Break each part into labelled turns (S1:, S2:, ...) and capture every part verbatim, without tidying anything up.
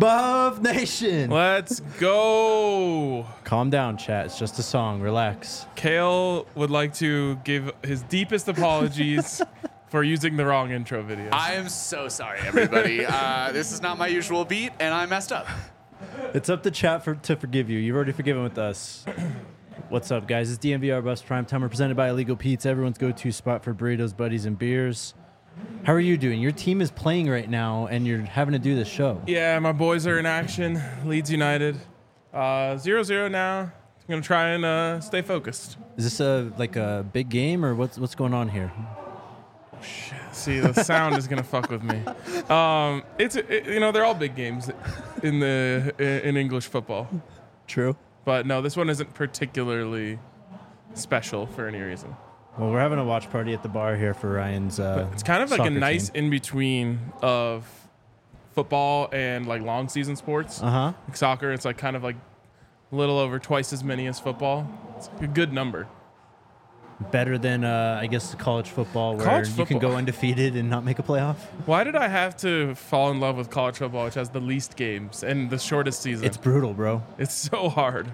S1: Buff Nation.
S2: Let's go.
S1: Calm down, chat. It's just a song. Relax.
S2: Kale would like to give his deepest apologies for using the wrong intro video.
S3: I am so sorry, everybody. uh, this is not my usual beat, and I messed up.
S1: It's up to chat for, to forgive you. You've already forgiven with us. What's up, guys? It's D M V R Buffs Prime Time. We're presented by Illegal Pete's, everyone's go-to spot for burritos, buddies, and beers. How are you doing? Your team is playing right now, and you're having to do this show.
S2: Yeah, my boys are in action. Leeds United. Uh, zero zero now. I'm going to try and uh, stay focused.
S1: Is this a like a big game, or what's what's going on here?
S2: Shit. See, the sound is going to fuck with me. Um, it's it, you know, they're all big games in the in English football.
S1: True.
S2: But no, this one isn't particularly special for any reason.
S1: Well, we're having a watch party at the bar here for Ryan's. Uh,
S2: It's kind of like a
S1: soccer
S2: nice
S1: team.
S2: in between of football and like long season sports.
S1: Uh huh.
S2: Like soccer, it's like kind of like a little over twice as many as football. It's a good number.
S1: Better than uh, I guess college football, where
S2: College
S1: you can
S2: football.
S1: go undefeated and not make a playoff.
S2: Why did I have to fall in love with college football, which has the least games and the shortest season?
S1: It's brutal, bro.
S2: It's so hard.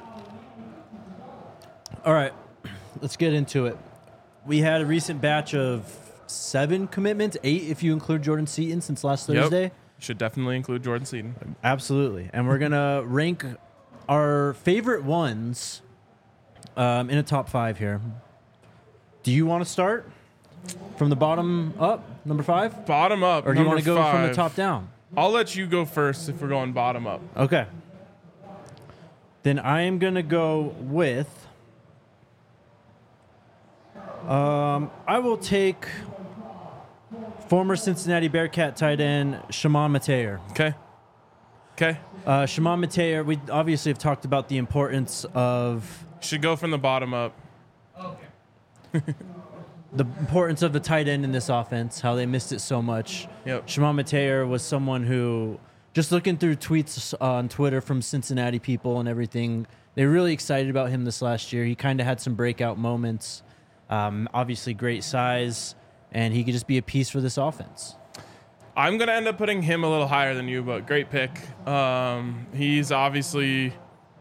S1: All right, let's get into it. We had a recent batch of seven commitments, eight if you include Jordan Seaton since last Thursday.
S2: Yep. Should definitely include Jordan Seaton.
S1: Absolutely. And we're going to rank our favorite ones um, in a top five here. Do you want to start from the bottom up, number five?
S2: Bottom up.
S1: Or do you want to
S2: number
S1: go from the
S2: five.
S1: top down?
S2: I'll let you go first if we're going bottom up.
S1: Okay. Then I am going to go with... Um, I will take former Cincinnati Bearcat tight end Shimon Mateer.
S2: Okay. Okay.
S1: Uh, Shimon Mateer, we obviously have talked about the importance of
S2: Should go from the bottom up.
S1: the importance of the tight end in this offense, how they missed it so much.
S2: Yep.
S1: Shimon Mateer was someone who, just looking through tweets on Twitter from Cincinnati people and everything, they were really excited about him this last year. He kind of had some breakout moments. Um, obviously, great size, and he could just be a piece for this offense.
S2: I'm going to end up putting him a little higher than you, but great pick. Um, he's obviously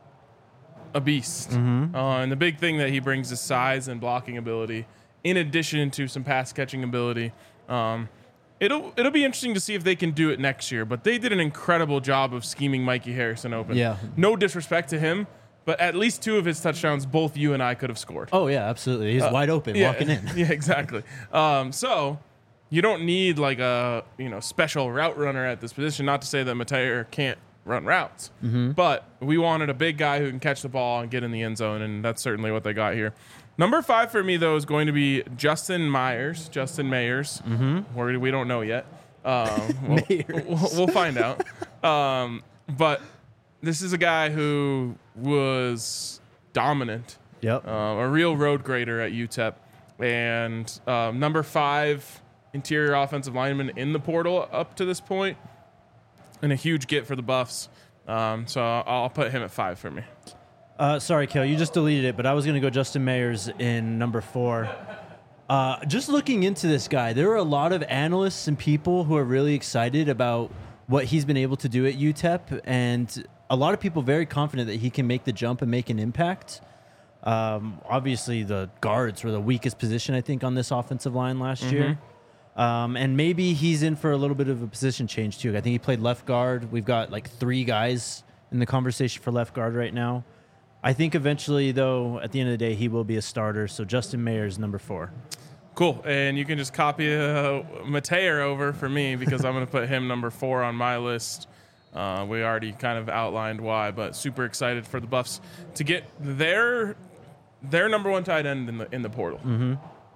S2: a beast.
S1: Mm-hmm.
S2: Uh, and the big thing that he brings is size and blocking ability, in addition to some pass catching ability. Um, it'll it'll be interesting to see if they can do it next year, but they did an incredible job of scheming Mikey Harrison open.
S1: Yeah.
S2: No disrespect to him, but at least two of his touchdowns, both you and I could have scored.
S1: Oh, yeah, absolutely. He's
S2: Uh,
S1: wide open
S2: yeah,
S1: walking in.
S2: Yeah, exactly. Um, so you don't need like a you know special route runner at this position. Not to say that Mateer can't run routes,
S1: Mm-hmm.
S2: but we wanted a big guy who can catch the ball and get in the end zone, and that's certainly what they got here. Number five for me though is going to be Justin Myers, Justin Mayers. Mm-hmm. Where we don't know yet. Um, we'll, we'll, we'll find out. Um, but this is a guy who was dominant.
S1: Yep.
S2: Uh, a real road grader at U T E P, and um, number five interior offensive lineman in the portal up to this point, and a huge get for the Buffs. Um, so I'll, I'll put him at five for me.
S1: Uh, sorry, Kel, you just deleted it, but I was going to go Justin Mayers in number four. Uh, just looking into this guy, there are a lot of analysts and people who are really excited about what he's been able to do at U T E P, and a lot of people very confident that he can make the jump and make an impact. Um, obviously, the guards were the weakest position, I think, on this offensive line last
S2: Mm-hmm.
S1: year. Um, and maybe he's in for a little bit of a position change, too. I think he played left guard. We've got like three guys in the conversation for left guard right now. I think eventually, though, at the end of the day, he will be a starter. So Justin Mayers, number four.
S2: Cool. And you can just copy uh, Mateer over for me because I'm going to put him number four on my list. Uh, we already kind of outlined why, but super excited for the Buffs to get their their number one tight end in the in the portal.
S1: Mm-hmm.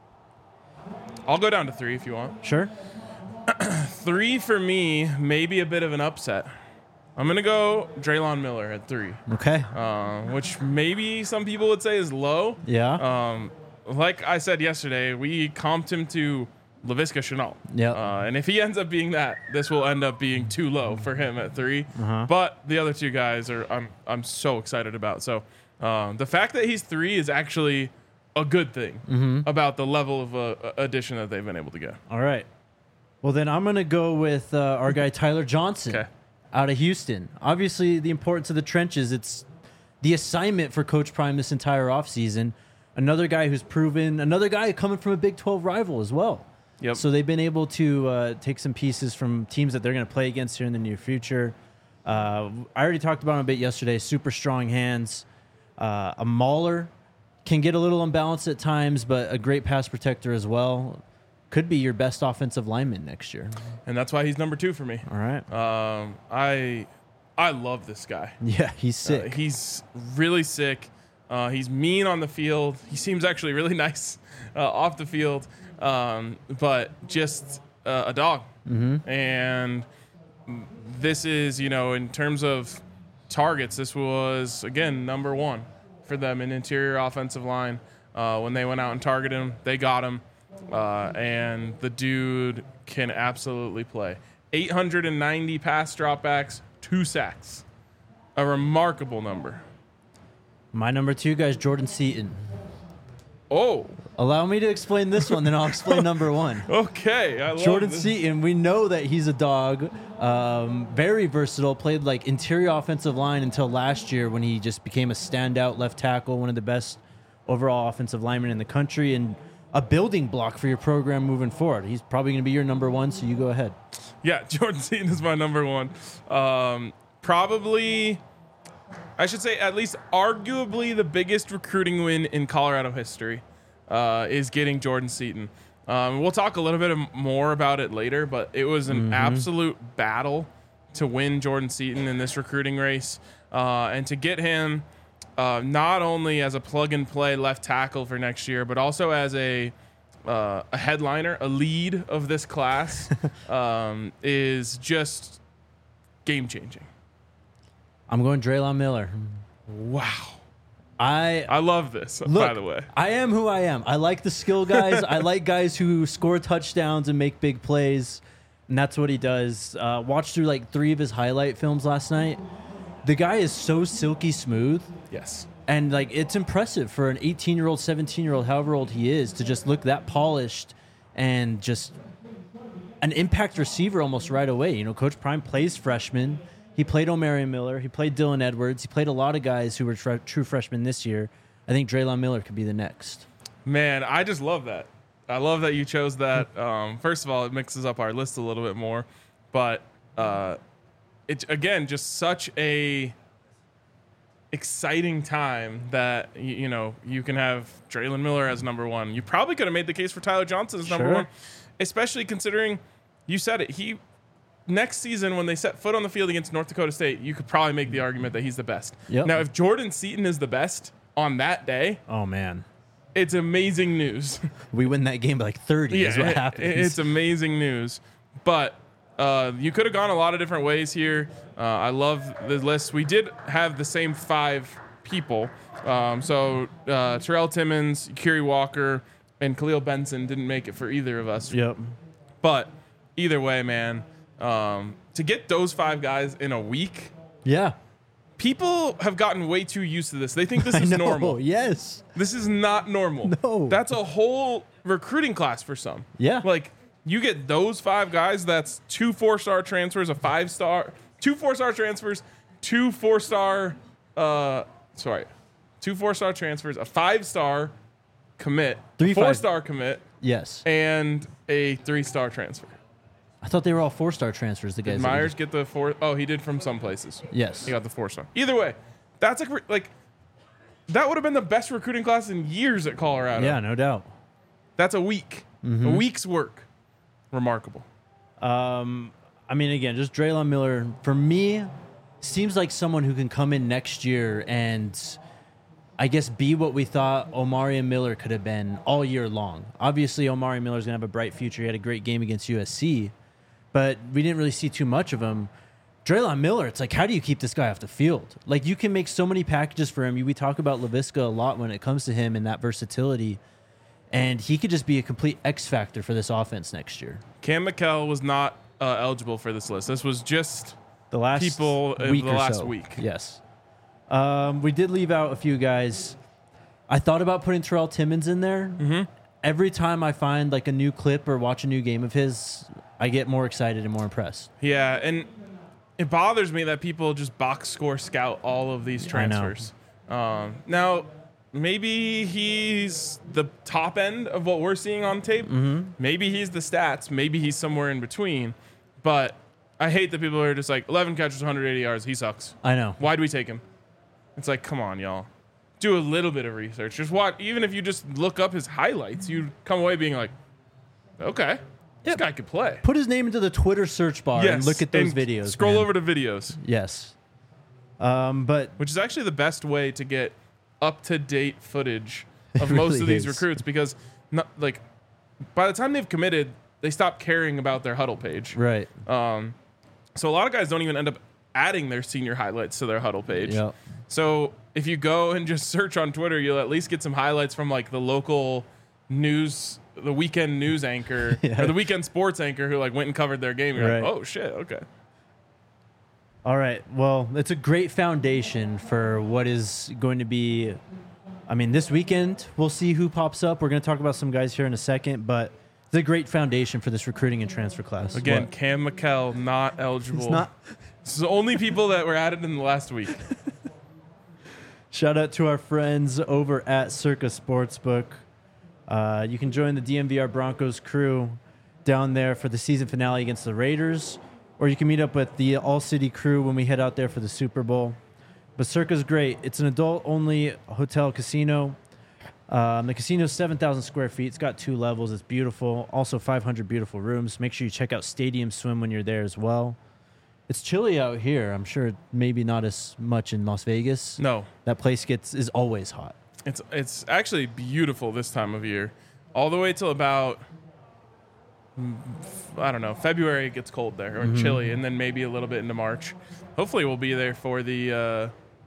S2: I'll go down to three if you want.
S1: Sure.
S2: Three for me, maybe a bit of an upset. I'm going to go Draylon Miller at three,
S1: Okay.
S2: uh, which maybe some people would say is low.
S1: Yeah.
S2: Um, like I said yesterday, we comped him to Laviska Shenault.
S1: Yep.
S2: Uh, and if he ends up being that, this will end up being too low for him at three.
S1: Uh-huh.
S2: But the other two guys are I'm I'm so excited about. So um, the fact that he's three is actually a good thing
S1: Mm-hmm.
S2: about the level of uh, addition that they've been able to get.
S1: All right. Well, then I'm going to go with uh, our guy Tyler Johnson.
S2: Okay.
S1: out of Houston. Obviously, the importance of the trenches, it's the assignment for Coach Prime this entire offseason. Another guy who's proven, another guy coming from a Big twelve rival as well.
S2: Yep.
S1: So they've been able to uh, take some pieces from teams that they're going to play against here in the near future. Uh, I already talked about him a bit yesterday. Super strong hands. Uh, a mauler, can get a little unbalanced at times, but a great pass protector as well. Could be your best offensive lineman next year.
S2: And that's why he's number two for me.
S1: All right.
S2: Um, I I love this guy.
S1: Yeah, he's sick.
S2: Uh, he's really sick. Uh, he's mean on the field. He seems actually really nice uh, off the field, um, but just uh, a dog.
S1: Mm-hmm.
S2: And this is, you know, in terms of targets, this was, again, number one for them in interior offensive line. Uh, when they went out and targeted him, they got him. Uh, and the dude can absolutely play. eight hundred ninety pass dropbacks, two sacks. A remarkable number.
S1: My number two guy is Jordan Seaton.
S2: Oh,
S1: Allow me to explain this one, then I'll explain number one.
S2: okay. I love
S1: Jordan
S2: this.
S1: Seaton, we know that he's a dog, um, very versatile, played like interior offensive line until last year when he just became a standout left tackle, one of the best overall offensive linemen in the country, and a building block for your program moving forward. He's probably going to be your number one, so you go ahead.
S2: Yeah, Jordan Seaton is my number one. Um, probably, I should say, at least arguably the biggest recruiting win in Colorado history uh, is getting Jordan Seaton. Um, we'll talk a little bit more about it later, but it was an
S1: Mm-hmm.
S2: absolute battle to win Jordan Seaton in this recruiting race, uh, and to get him uh, not only as a plug-and-play left tackle for next year, but also as a uh, a headliner, a lead of this class, um, is just game-changing.
S1: I'm going Draylon Miller.
S2: Wow.
S1: I
S2: I love this,
S1: Look,
S2: by the way.
S1: I am who I am. I like the skill guys. I like guys who score touchdowns and make big plays, and that's what he does. Uh, watched through like three of his highlight films last night. The guy is so silky smooth,
S2: Yes.
S1: and like it's impressive for an eighteen-year-old, seventeen-year-old, however old he is, to just look that polished and just an impact receiver almost right away. You know, Coach Prime plays freshmen. He played Omarion Miller. He played Dylan Edwards. He played a lot of guys who were tr- true freshmen this year. I think Draylon Miller could be the next.
S2: Man, I just love that. I love that you chose that. Um, first of all, it mixes up our list a little bit more. But uh, it's, again, just such a exciting time that, you, you know, you can have Draylon Miller as number one. You probably could have made the case for Tyler Johnson as number
S1: Sure.
S2: one, especially considering, you said it, he next season when they set foot on the field against North Dakota State, you could probably make the argument that he's the best.
S1: Yep.
S2: Now, if Jordan Seaton is the best on that day,
S1: Oh, man.
S2: it's amazing news.
S1: We win that game by like thirty is what
S2: it-
S1: happens.
S2: it's amazing news. But uh, you could have gone a lot of different ways here. Uh, I love the list. We did have the same five people. Um, so uh, Terrell Timmons, Kerry Walker, and Khalil Benson didn't make it for either of us.
S1: Yep.
S2: But either way, man, um, to get those five guys in a week,
S1: Yeah.
S2: people have gotten way too used to this. They think this
S1: I
S2: is
S1: know.
S2: normal.
S1: Yes.
S2: This is not normal.
S1: No.
S2: That's a whole recruiting class for some.
S1: Yeah.
S2: Like, you get those five guys, that's two four-star transfers, a five-star, two four-star transfers, two four-star, uh, sorry, two four-star transfers, a five-star commit,
S1: Three
S2: a
S1: five-
S2: four-star commit,
S1: Yes.
S2: and a three-star transfer.
S1: I thought they were all four-star transfers, the guys.
S2: Did
S1: that we
S2: Myers
S1: just-
S2: get the four? Oh, he did from some places.
S1: Yes.
S2: He got the four-star. Either way, that's like, re- like that would have been the best recruiting class in years at Colorado.
S1: Yeah, no doubt.
S2: That's a week.
S1: Mm-hmm.
S2: A week's work. Remarkable.
S1: Um, I mean, again, just Draylon Miller, for me, seems like someone who can come in next year and I guess be what we thought Omarion Miller could have been all year long. Obviously, Omarion Miller's going to have a bright future. He had a great game against U S C, but we didn't really see too much of him. Draylon Miller, it's like, how do you keep this guy off the field? Like, you can make so many packages for him. We talk about Laviska a lot when it comes to him and that versatility, and he could just be a complete X factor for this offense next year.
S2: Cam McKell was not uh, eligible for this list. This was just
S1: The last
S2: people of
S1: week
S2: the
S1: or
S2: last
S1: so.
S2: week.
S1: Yes. Um, we did leave out a few guys. I thought about putting Terrell Timmons in there.
S2: Mhm.
S1: Every time I find like a new clip or watch a new game of his, I get more excited and more impressed.
S2: Yeah, and it bothers me that people just box score scout all of these transfers. Um, now, maybe he's the top end of what we're seeing on tape.
S1: Mm-hmm.
S2: Maybe he's the stats. Maybe he's somewhere in between. But I hate that people are just like, eleven catches, one hundred eighty yards. He sucks.
S1: I know.
S2: Why do we take him? It's like, come on, y'all. Do a little bit of research. Just watch. Even if you just look up his highlights, you come away being like, okay, this
S1: Yep.
S2: guy could play.
S1: Put his name into the Twitter search bar and look at those
S2: and
S1: videos.
S2: Scroll
S1: man.
S2: over to videos,
S1: Yes. Um, but
S2: which is actually the best way to get up-to-date footage of
S1: It
S2: most
S1: really
S2: of these
S1: is.
S2: recruits, because not, like by the time they've committed, they stop caring about their huddle page.
S1: right.
S2: Um, so a lot of guys don't even end up adding their senior highlights to their huddle page.
S1: Yep.
S2: So if you go and just search on Twitter, you'll at least get some highlights from like the local news, the weekend news anchor
S1: Yeah.
S2: or the weekend sports anchor who like went and covered their game. You're
S1: Right.
S2: like, oh shit, okay.
S1: All right. Well, it's a great foundation for what is going to be. I mean, this weekend, we'll see who pops up. We're going to talk about some guys here in a second, but it's a great foundation for this recruiting and transfer class.
S2: Again,
S1: What?
S2: Cam McKell not eligible.
S1: It's not.
S2: It's the only people that were added in the last week.
S1: Shout out to our friends over at Circa Sportsbook. Uh, you can join the D M V R Broncos crew down there for the season finale against the Raiders, or you can meet up with the All City crew when we head out there for the Super Bowl. But Circa's great. It's an adult-only hotel casino. Um, the casino is seven thousand square feet. It's got two levels. It's beautiful. Also five hundred beautiful rooms. Make sure you check out Stadium Swim when you're there as well. It's chilly out here. I'm sure maybe not as much in Las Vegas.
S2: No,
S1: That place gets is always hot.
S2: it's it's actually beautiful this time of year, all the way till about mm, I don't know, February. It gets cold there or chilly, and then maybe a little bit into March. Hopefully, we'll be there for the uh,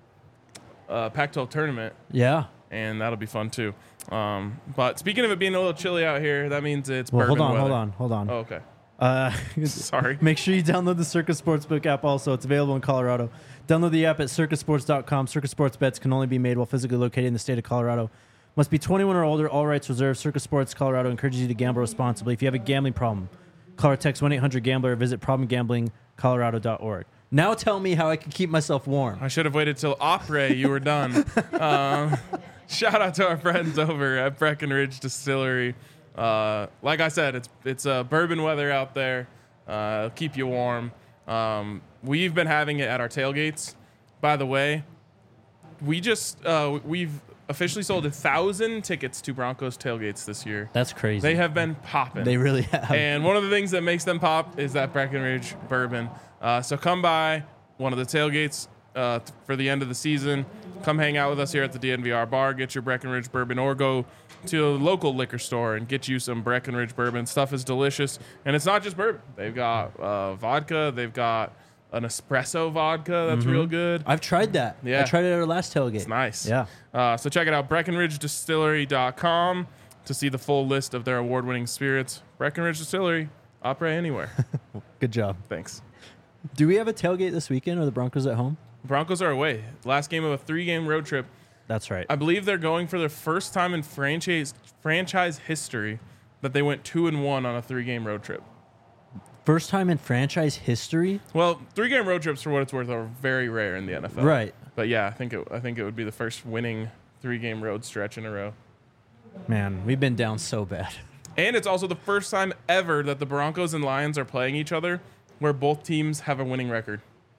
S2: uh, Pac twelve tournament,
S1: Yeah.
S2: and that'll be fun too. Um, but speaking of it being a little chilly out here, that means it's
S1: Well, hold
S2: bourbon
S1: on, hold
S2: weather.
S1: on, hold on.
S2: Oh, okay.
S1: Uh,
S2: Sorry.
S1: Make sure you download the Circa Sportsbook app also. It's available in Colorado. Download the app at circa sports dot com. Circa Sports bets can only be made while physically located in the state of Colorado. Must be twenty-one or older. All rights reserved. Circa Sports Colorado encourages you to gamble responsibly. If you have a gambling problem, call or text one eight hundred gambler or visit problem gambling colorado dot org. Now tell me how I can keep myself warm.
S2: I should have waited till Opry you were done. um, shout out to our friends over at Breckenridge Distillery. Uh, like I said, it's it's uh, bourbon weather out there. Uh, it'll keep you warm. Um, we've been having it at our tailgates. By the way, we just uh, we've officially sold a thousand tickets to Broncos tailgates this year.
S1: That's crazy.
S2: They have been popping.
S1: They really have.
S2: And one of the things that makes them pop is that Breckenridge bourbon. Uh, so come by one of the tailgates uh, th- for the end of the season. Come hang out with us here at the D N V R bar. Get your Breckenridge bourbon, or go to a local liquor store and get you some Breckenridge bourbon. Stuff is delicious. And it's not just bourbon. They've got uh, vodka. They've got an espresso vodka that's real good.
S1: I've tried that.
S2: Yeah.
S1: I tried it at our last tailgate.
S2: It's nice.
S1: Yeah.
S2: Uh, so check it out, Breckenridge Distillery dot com, to see the full list of their award-winning spirits. Breckenridge Distillery, opera anywhere.
S1: Good job.
S2: Thanks.
S1: Do we have a tailgate this weekend? Or the Broncos at home?
S2: Broncos are away. Last game of a three-game road trip.
S1: That's right.
S2: I believe they're going for their first time in franchise franchise history that they went two and one on a three-game road trip.
S1: First time in franchise history.
S2: Well, three-game road trips, for what it's worth, are very rare in the N F L.
S1: Right.
S2: But yeah, I think it, I think it would be the first winning three-game road stretch in a row.
S1: Man, we've been down so bad.
S2: And it's also the first time ever that the Broncos and Lions are playing each other where both teams have a winning record.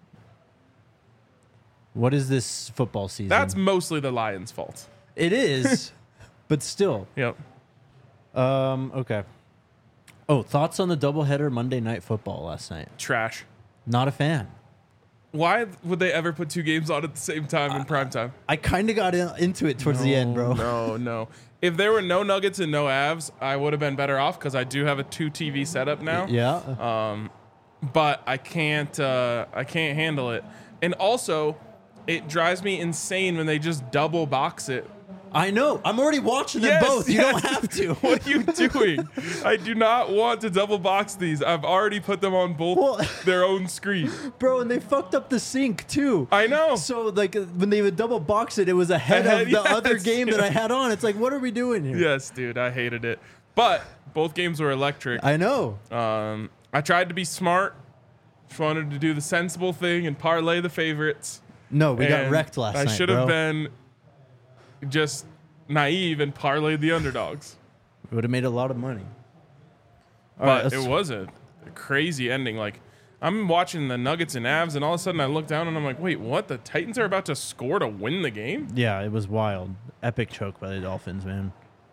S1: What is this football season?
S2: That's mostly the Lions' fault.
S1: It is, but still.
S2: Yep.
S1: Um. Okay. Oh, thoughts on the doubleheader Monday Night Football last night?
S2: Trash.
S1: Not a fan.
S2: Why would they ever put two games on at the same time in prime time?
S1: I kind of got in, into it towards the end, bro.
S2: No, no. If there were no Nuggets and no Avs, I would have been better off because I do have a two T V setup now.
S1: Yeah.
S2: Um, but I can't. Uh, I can't handle it. And also, it drives me insane when they just double box it.
S1: I know. I'm already watching them
S2: Yes,
S1: both. You
S2: yes.
S1: don't have to.
S2: What are you doing? I do not want to double box these. I've already put them on both
S1: Well-
S2: their own screen.
S1: Bro, and they fucked up the sync too.
S2: I know.
S1: So like uh, when they would double box it, it was ahead,
S2: Ahead,
S1: of the
S2: yes,
S1: other game that
S2: yes.
S1: I had on. It's like, what are we doing here?
S2: Yes, dude, I hated it. But both games were electric.
S1: I know.
S2: Um, I tried to be smart Just wanted to do the sensible thing and parlay the favorites.
S1: No, we got
S2: And
S1: wrecked last
S2: I
S1: night,
S2: should have
S1: bro.
S2: been just naive and parlayed the underdogs.
S1: We would have made a lot of money. All
S2: But
S1: right, let's-
S2: it was a, a crazy ending. Like, I'm watching the Nuggets and Avs, and all of a sudden I look down and I'm like, wait, what? The Titans are about to score to win the game?
S1: Yeah, it was wild. Epic choke by the Dolphins, man.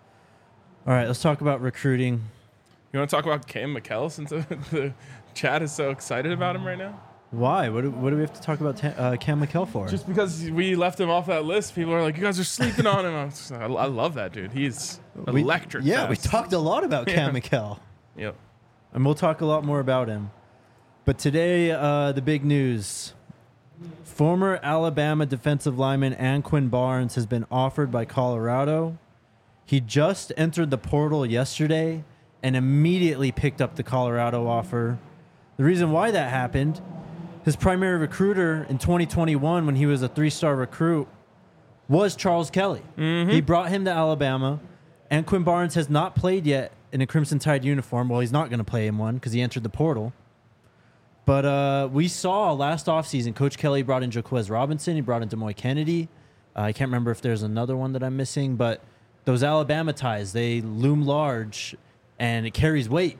S1: All right, let's talk about recruiting.
S2: You want to talk about Cam McKell since the, the chat is so excited about him right now?
S1: Why? What do, what do we have to talk about ta- uh, Cam McKell for?
S2: Just because we left him off that list, people are like, you guys are sleeping on him. I, was just like, I I love that dude. He's
S1: We-
S2: electric.
S1: Yeah, we
S2: fast.
S1: talked a lot about Cam
S2: Yeah.
S1: McKell.
S2: Yep.
S1: And we'll talk a lot more about him. But today, uh, the big news. Former Alabama defensive lineman Anquin Barnes has been offered by Colorado. He just entered the portal yesterday and immediately picked up the Colorado offer. The reason why that happened, his primary recruiter in twenty twenty-one when he was a three-star recruit was Charles Kelly. He brought him to Alabama. Anquin Barnes has not played yet in a Crimson Tide uniform. Well, he's not going to play in one because he entered the portal. But uh, we saw last offseason, Coach Kelly brought in Jaquez Robinson. He brought in Demoy Kennedy. Uh, I can't remember if there's another one that I'm missing. But those Alabama ties, they loom large, and it carries weight.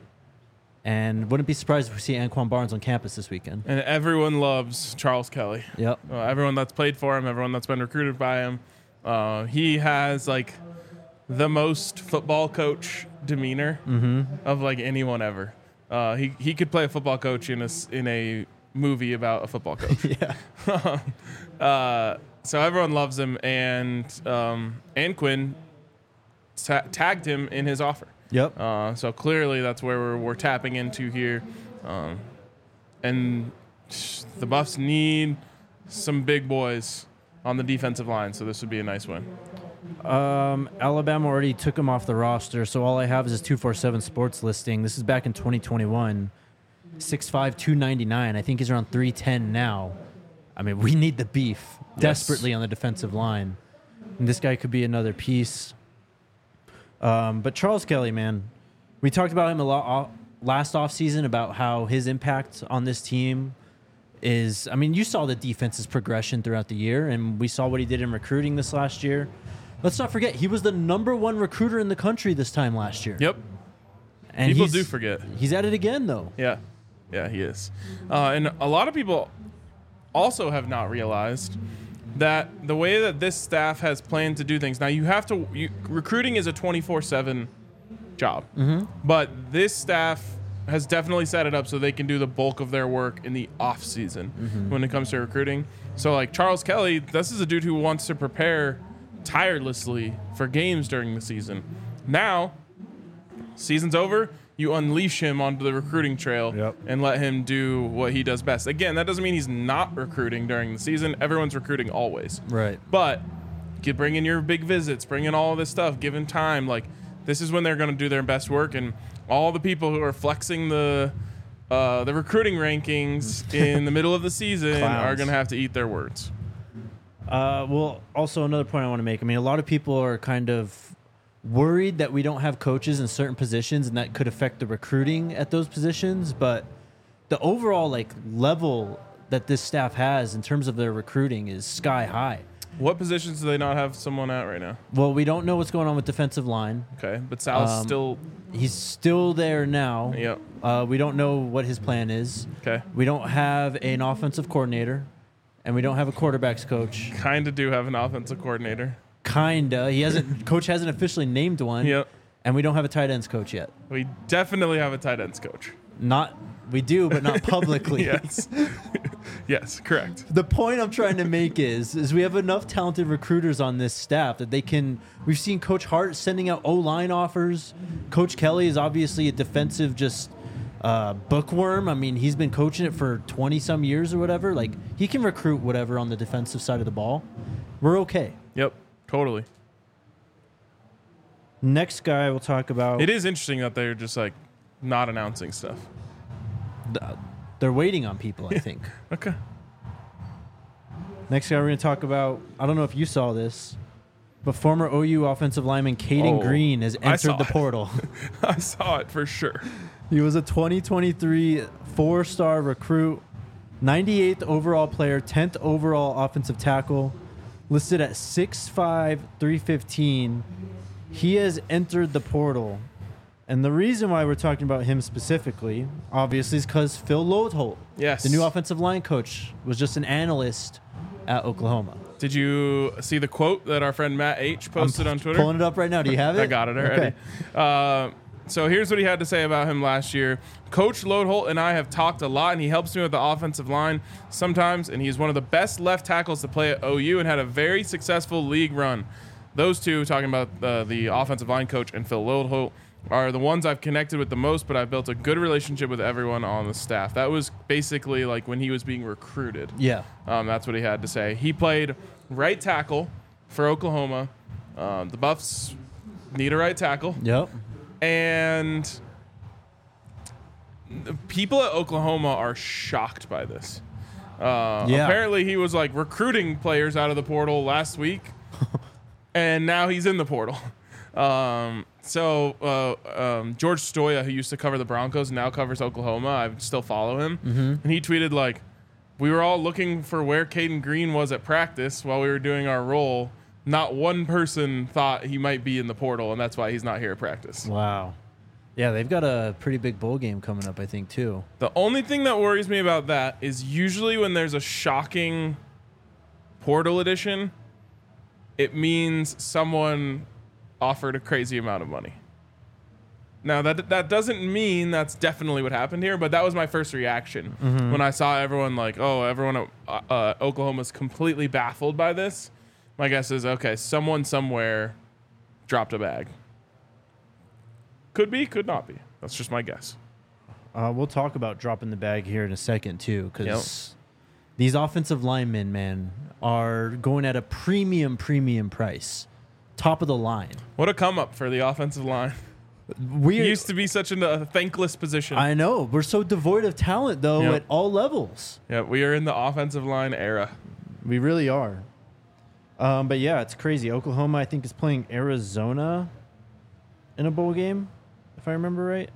S1: And wouldn't be surprised if we see Anquin Barnes on campus this weekend.
S2: And everyone loves Charles Kelly.
S1: Yep.
S2: Uh, everyone that's played for him, everyone that's been recruited by him. Uh, he has like the most football coach demeanor of like anyone ever. Uh, he he could play a football coach in a s- in a movie about a football coach.
S1: Yeah.
S2: uh, so everyone loves him, and um, Anquin ta- tagged him in his offer.
S1: Yep.
S2: Uh, so clearly that's where we're, we're tapping into here. Um, and the Buffs need some big boys on the defensive line, so this would be a nice win.
S1: Um, Alabama already took him off the roster, so all I have is his two forty-seven sports listing. This is back in twenty twenty-one. six five, two ninety-nine. I think he's around three ten now. I mean, we need the beef desperately on the defensive line. And this guy could be another piece. Um, but Charles Kelly, man, we talked about him a lot off, last offseason about how his impact on this team is, I mean, you saw the defense's progression throughout the year, and we saw what he did in recruiting this last year. Let's not forget, he was the number one recruiter in the country this time last year.
S2: Yep.
S1: And
S2: People
S1: he's-
S2: do forget.
S1: He's at it again, though.
S2: Yeah. Yeah, he is. Uh, and a lot of people also have not realized that the way that this staff has planned to do things. Now, you have to, you, recruiting is a twenty-four seven job.
S1: Mm-hmm.
S2: But this staff has definitely set it up so they can do the bulk of their work in the off season
S1: Mm-hmm.
S2: when it comes to recruiting. So, like Charles Kelly, this is a dude who wants to prepare tirelessly for games during the season. Now, season's over, you unleash him onto the recruiting trail
S1: Yep.
S2: and let him do what he does best. Again, that doesn't mean he's not recruiting during the season. Everyone's recruiting always.
S1: Right.
S2: But you bring in your big visits, bring in all this stuff, give him time. Like, this is when they're going to do their best work. And all the people who are flexing the uh, the recruiting rankings in the middle of the season
S1: Clowns.
S2: are going to have to eat their words.
S1: Uh, well, also another point I want to make. I mean, a lot of people are kind of worried that we don't have coaches in certain positions, and that could affect the recruiting at those positions. But the overall like level that this staff has in terms of their recruiting is sky high.
S2: What positions do they not have someone at right now?
S1: Well, we don't know what's going on with defensive line.
S2: Okay, but Sal's
S1: Um,
S2: still.
S1: He's still there now.
S2: Yep.
S1: Uh, we don't know what his plan is.
S2: Okay.
S1: We don't have an offensive coordinator, and we don't have a quarterbacks coach.
S2: Kind of do have an offensive coordinator.
S1: Kinda. He hasn't. Coach hasn't officially named one.
S2: Yep.
S1: And we don't have a tight ends coach yet.
S2: We definitely have a tight ends coach.
S1: Not. We do, but not publicly.
S2: Yes. Yes, correct.
S1: The point I'm trying to make is, is we have enough talented recruiters on this staff that they can. We've seen Coach Hart sending out O-line offers. Coach Kelly is obviously a defensive just uh, bookworm. I mean, he's been coaching it for twenty some years or whatever. Like he can recruit whatever on the defensive side of the ball. We're okay.
S2: Yep, totally.
S1: Next guy we'll talk about.
S2: It is interesting that they're just like not announcing stuff.
S1: th- They're waiting on people, I think.
S2: Okay.
S1: Next guy we're going to talk about, I don't know if you saw this, but former O U offensive lineman Caden
S2: Oh,
S1: Green has
S2: I
S1: entered
S2: saw
S1: the
S2: it.
S1: portal.
S2: I saw it for sure.
S1: He was a twenty twenty-three four-star recruit, ninety-eighth overall player, tenth overall offensive tackle, listed at six five, three fifteen. He has entered the portal. And the reason why we're talking about him specifically, obviously, is because Phil Loadholt,
S2: Yes.
S1: the new offensive line coach, was just an analyst at Oklahoma.
S2: Did you see the quote that our friend Matt H posted
S1: I'm
S2: on Twitter?
S1: Pulling it up right now. Do you have it?
S2: I got it already.
S1: Okay.
S2: Uh, so here's what he had to say about him last year. Coach Loadholt and I have talked a lot, and he helps me with the offensive line sometimes, and he's one of the best left tackles to play at O U and had a very successful league run. Those two, talking about uh, the offensive line coach and Phil Loadholt, are the ones I've connected with the most, but I've built a good relationship with everyone on the staff. That was basically like when he was being recruited.
S1: Yeah.
S2: Um, that's what he had to say. He played right tackle for Oklahoma. Um, the Buffs need a right tackle.
S1: Yep.
S2: And the people at Oklahoma are shocked by this. Uh,
S1: Yeah.
S2: Apparently he was like recruiting players out of the portal last week, and now he's in the portal. Um, so uh, um, George Stoya, who used to cover the Broncos, now covers Oklahoma. I still follow him.
S1: Mm-hmm.
S2: And he tweeted like, we were all looking for where Caden Green was at practice while we were doing our role. Not one person thought he might be in the portal, and that's why he's not here at practice.
S1: Wow. Yeah, they've got a pretty big bowl game coming up, I think, too.
S2: The only thing that worries me about that is usually when there's a shocking portal edition, it means someone offered a crazy amount of money. Now, that that doesn't mean that's definitely what happened here, but that was my first reaction
S1: Mm-hmm.
S2: when I saw everyone like, oh, everyone at uh, uh, Oklahoma's completely baffled by this. My guess is, okay, someone somewhere dropped a bag. Could be, could not be. That's just my guess.
S1: Uh, we'll talk about dropping the bag here in a second, too, because
S2: Yep.
S1: these offensive linemen, man, are going at a premium, premium price. Top of the line.
S2: What a come up for the offensive line.
S1: We
S2: It used to be such a uh, thankless position.
S1: I know. We're so devoid of talent, though,
S2: Yep.
S1: at all levels.
S2: Yeah, we are in the offensive line era.
S1: We really are. Um, but, yeah, it's crazy. Oklahoma, I think, is playing Arizona in a bowl game, if I remember right.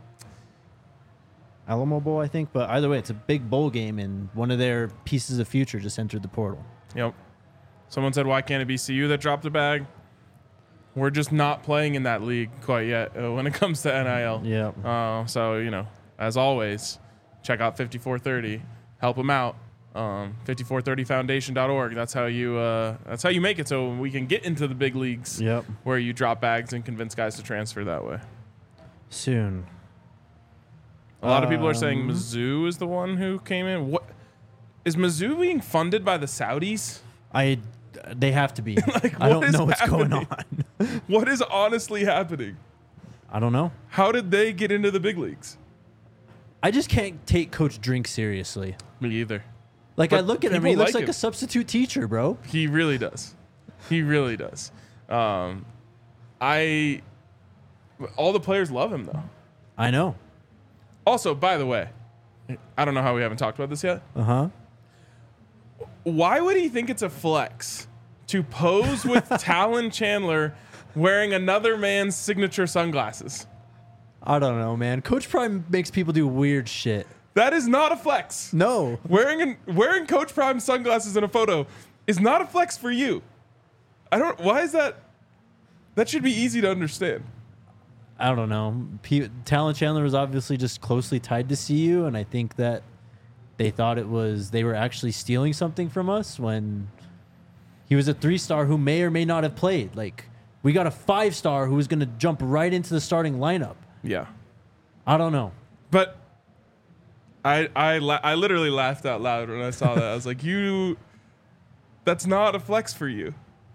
S1: Alamo Bowl, I think. But either way, it's a big bowl game, and one of their pieces of future just entered the portal.
S2: Yep. Someone said, why can't it be C U that dropped a bag? We're just not playing in that league quite yet uh, when it comes to N I L.
S1: Yeah.
S2: Uh, so, you know, as always, check out fifty-four thirty. Help them out. Um, fifty-four thirty foundation dot org. That's how you uh, that's how you make it so we can get into the big leagues
S1: Yep.
S2: where you drop bags and convince guys to transfer that way.
S1: Soon.
S2: A lot of people are saying
S1: Um,
S2: Mizzou is the one who came in. What is Mizzou being funded by the Saudis?
S1: I, they have to be.
S2: Like,
S1: I
S2: what
S1: don't
S2: is
S1: know what's going
S2: happening?
S1: on.
S2: What is honestly happening?
S1: I don't know.
S2: How did they get into the big leagues?
S1: I just can't take Coach Drink seriously.
S2: Me either.
S1: Like,
S2: But
S1: I look at him,
S2: people
S1: he looks
S2: like
S1: like
S2: him.
S1: a substitute teacher, bro.
S2: He really does. He really does. Um, I. All the players love him though.
S1: I know.
S2: Also, by the way, I don't know how we haven't talked about this yet.
S1: Uh huh.
S2: Why would he think it's a flex to pose with Talon Chandler wearing another man's signature sunglasses?
S1: I don't know, man. Coach Prime makes people do weird shit.
S2: That is not a flex.
S1: No.
S2: Wearing an, wearing Coach Prime sunglasses in a photo is not a flex for you. I don't. Why is that? That should be easy to understand.
S1: I don't know. P- Talon Chandler was obviously just closely tied to C U, and I think that they thought it was they were actually stealing something from us when he was a three-star who may or may not have played. Like, we got a five-star who was going to jump right into the starting lineup.
S2: Yeah,
S1: I don't know.
S2: but I I la- I literally laughed out loud when I saw that. I was like, you. That's not a flex for you.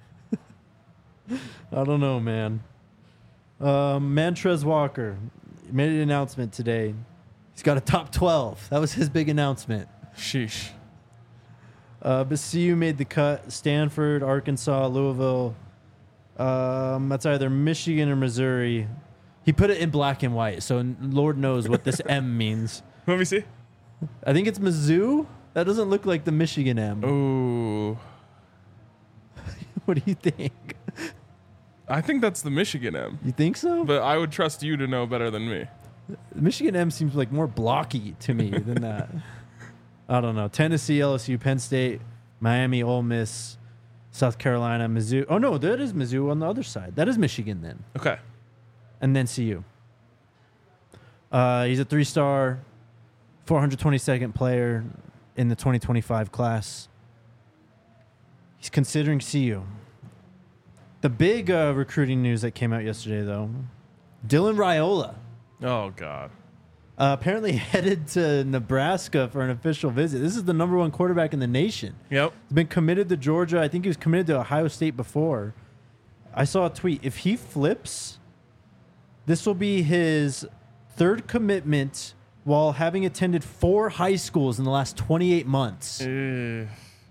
S1: I don't know, man. Um, Mantrez Walker made an announcement today. He's got a top twelve. That was his big announcement.
S2: Sheesh.
S1: Uh, but C U made the cut. Stanford, Arkansas, Louisville. Um, that's either Michigan or Missouri. He put it in black and white, so Lord knows what this M means.
S2: Let me see.
S1: I think it's Mizzou. That doesn't look like the Michigan M.
S2: Ooh.
S1: What do you think?
S2: I think that's the Michigan M,
S1: You think so?
S2: but I would trust you to know better than me.
S1: Michigan M seems like more blocky to me than that. I don't know. Tennessee, L S U, Penn State, Miami, Ole Miss, South Carolina, Mizzou. Oh, no, that is Mizzou on the other side. That is Michigan then.
S2: Okay.
S1: And then C U. Uh, he's a three-star, four hundred twenty-second player in the twenty twenty-five class. He's considering C U. The big uh, recruiting news that came out yesterday, though, Dylan Raiola.
S2: Oh, God.
S1: Uh, apparently headed to Nebraska for an official visit. This is the number one quarterback in the nation.
S2: Yep.
S1: He's been committed to Georgia. I think he was committed to Ohio State before. I saw a tweet. If he flips, this will be his third commitment while having attended four high schools in the last twenty-eight months.
S2: Uh,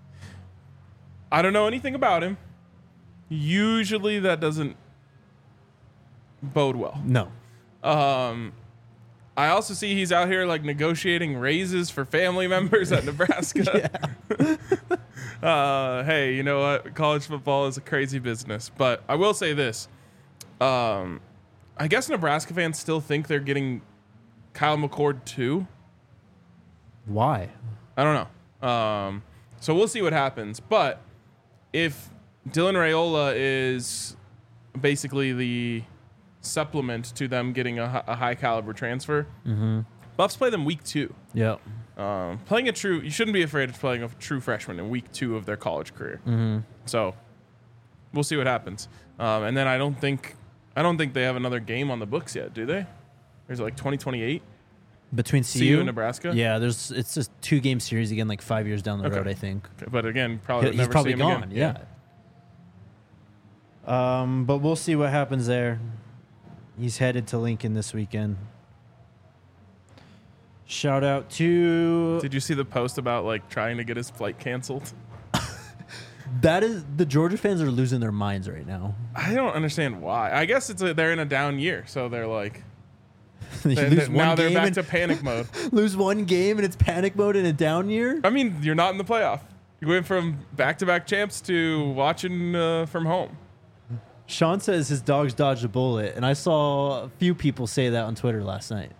S2: I don't know anything about him. Usually that doesn't bode well.
S1: No.
S2: Um, I also see he's out here like negotiating raises for family members at Nebraska. uh, hey, you know what? College football is a crazy business. But I will say this. Um, I guess Nebraska fans still think they're getting Kyle McCord too.
S1: Why?
S2: I don't know. Um, so we'll see what happens. But if Dylan Raiola is basically the supplement to them getting a, a high caliber transfer,
S1: Mm-hmm.
S2: Buffs play them week two.
S1: Yep.
S2: Um, playing a true, you shouldn't be afraid of playing a true freshman in week two of their college career.
S1: Mm-hmm.
S2: So we'll see what happens. Um, and then I don't think, I don't think they have another game on the books yet, do they? Or is it like twenty twenty-eight?
S1: Between
S2: C
S1: C U,
S2: U and Nebraska?
S1: Yeah, there's it's just two game series again, like five years down the
S2: Okay.
S1: road, I think.
S2: Okay, but again, probably
S1: He's
S2: never
S1: probably
S2: see him
S1: gone.
S2: again.
S1: Yeah. Um, but we'll see what happens there. He's headed to Lincoln this weekend. Shout out to
S2: Did you see the post about like trying to get his flight canceled?
S1: that is the Georgia fans are losing their minds right now.
S2: I don't understand why. I guess it's a, they're in a down year, so they're like
S1: You
S2: they-
S1: lose
S2: they- now
S1: one
S2: they're
S1: game
S2: back
S1: and-
S2: to panic mode.
S1: lose one game and it's panic mode in a down year.
S2: I mean, you're not in the playoff. You went from back-to-back champs to watching uh, from home.
S1: Sean says his dogs dodged a bullet, and I saw a few people say that on Twitter last night.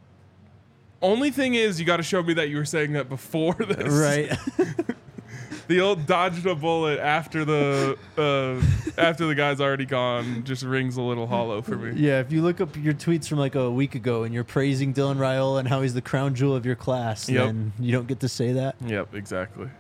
S2: Only thing is, you got to show me that you were saying that before this.
S1: Right.
S2: The old dodged a bullet after the uh, after the guy's already gone just rings a little hollow for me.
S1: Yeah, if you look up your tweets from like a week ago and you're praising Dylan Raiola and how he's the crown jewel of your class,
S2: Yep.
S1: then you don't get to say that.
S2: Yep, exactly.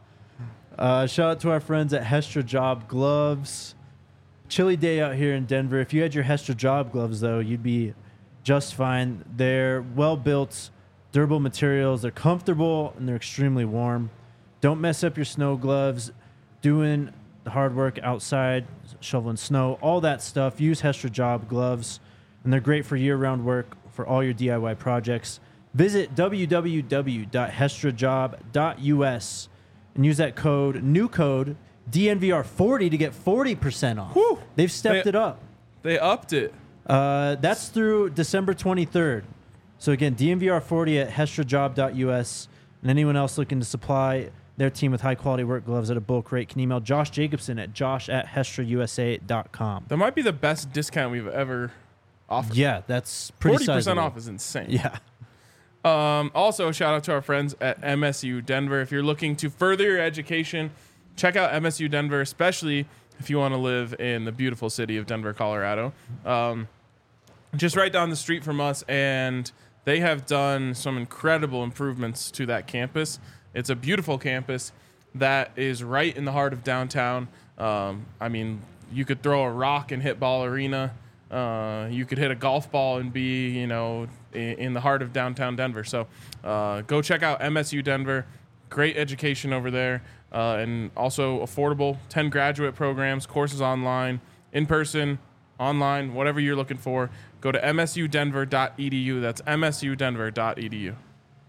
S1: Uh, shout out to our friends at Hestra Job Gloves. Chilly day out here in Denver. If you had your Hestra Job Gloves, though, you'd be just fine. They're well-built, durable materials. They're comfortable, and they're extremely warm. Don't mess up your snow gloves. Doing the hard work outside, shoveling snow, all that stuff. Use Hestra Job Gloves, and they're great for year-round work for all your D I Y projects. Visit w w w dot hestra job dot u s and use that code, new code, D N V R forty to get forty percent off.
S2: Whew.
S1: They've stepped
S2: They-
S1: it up.
S2: They upped it.
S1: Uh, that's through December twenty-third. So again, D N V R forty at hestra job dot u s. And anyone else looking to supply their team with high-quality work gloves at a bulk rate can email Josh Jacobson at josh at hestra u s a dot com.
S2: That might be the best discount we've ever offered.
S1: Yeah, that's pretty
S2: forty percent
S1: sizable.
S2: off is insane.
S1: Yeah.
S2: Um, also, shout out to our friends at M S U Denver. If you're looking to further your education, check out M S U Denver, especially if you want to live in the beautiful city of Denver, Colorado. Um, just right down the street from us, and they have done some incredible improvements to that campus. It's a beautiful campus that is right in the heart of downtown. Um, I mean, you could throw a rock and hit Ball Arena. Uh, you could hit a golf ball and be, you know, in, in the heart of downtown Denver. So uh, go check out M S U Denver. Great education over there, uh, and also affordable. ten graduate programs, courses online, in person, online, whatever you're looking for. Go to m s u denver dot e d u. That's m s u denver dot e d u.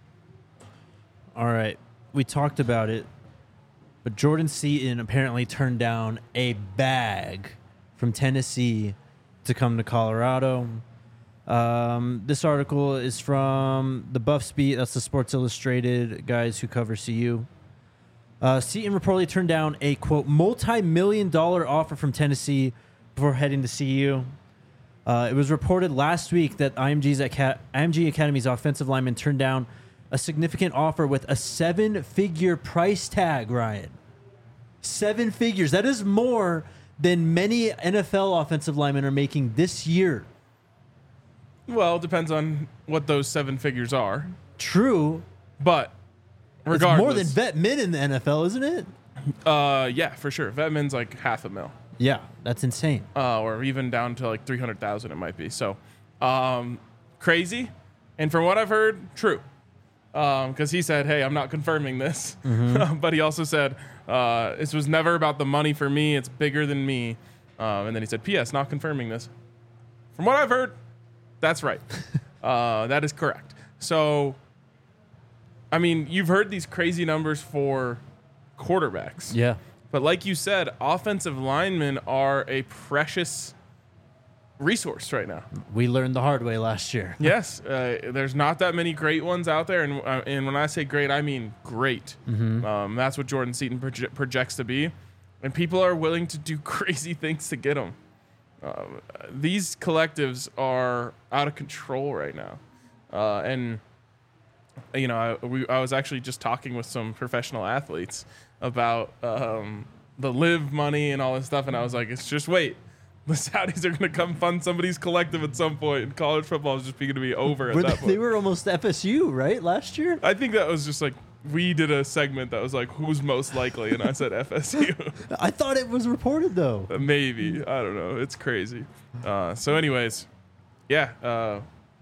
S1: All right. We talked about it, but Jordan Seaton apparently turned down a bag from Tennessee to come to Colorado. Um, this article is from the Buffs Beat. That's the Sports Illustrated guys who cover C U. Uh, Seaton reportedly turned down a, quote, multi-million dollar offer from Tennessee before heading to C U. Uh, it was reported last week that I M G's Aca- I M G Academy's offensive lineman turned down a significant offer with a seven-figure price tag, Ryan. Seven figures. That is more than many N F L offensive linemen are making this year.
S2: Well, it depends on what those seven figures are.
S1: True.
S2: But
S1: It's
S2: regardless,
S1: more than vet min in the N F L, isn't it?
S2: Uh, yeah, for sure. Vetmin's like half a mil,
S1: Yeah, that's insane.
S2: uh, or even down to like three hundred thousand. It might be so um, crazy. And from what I've heard, true. Because um, he said, "Hey, I'm not confirming this,"
S1: Mm-hmm.
S2: but he also said, uh, "This was never about the money for me. It's bigger than me." Um, and then he said, "P S. Not confirming this." From what I've heard, that's right. uh, that is correct. So, I mean, you've heard these crazy numbers for quarterbacks.
S1: Yeah.
S2: But like you said, offensive linemen are a precious resource right now.
S1: We learned the hard way last year.
S2: Yes, uh, there's not that many great ones out there, and uh, and when I say great, I mean great.
S1: Mm-hmm.
S2: Um, that's what Jordan Seaton proje- projects to be, and people are willing to do crazy things to get him. Uh, these collectives are out of control right now, uh, and you know, I, we, I was actually just talking with some professional athletes about um, the live money and all this stuff, and I was like, it's just wait. The Saudis are going to come fund somebody's collective at some point, and college football is just going to be over at
S1: Were
S2: that
S1: they,
S2: point.
S1: they were almost F S U, right, last year?
S2: I think that was just like, we did a segment that was like, who's most likely? And I said F S U.
S1: I thought it was reported, though.
S2: Maybe. I don't know. It's crazy. Uh, so anyways, yeah. Uh,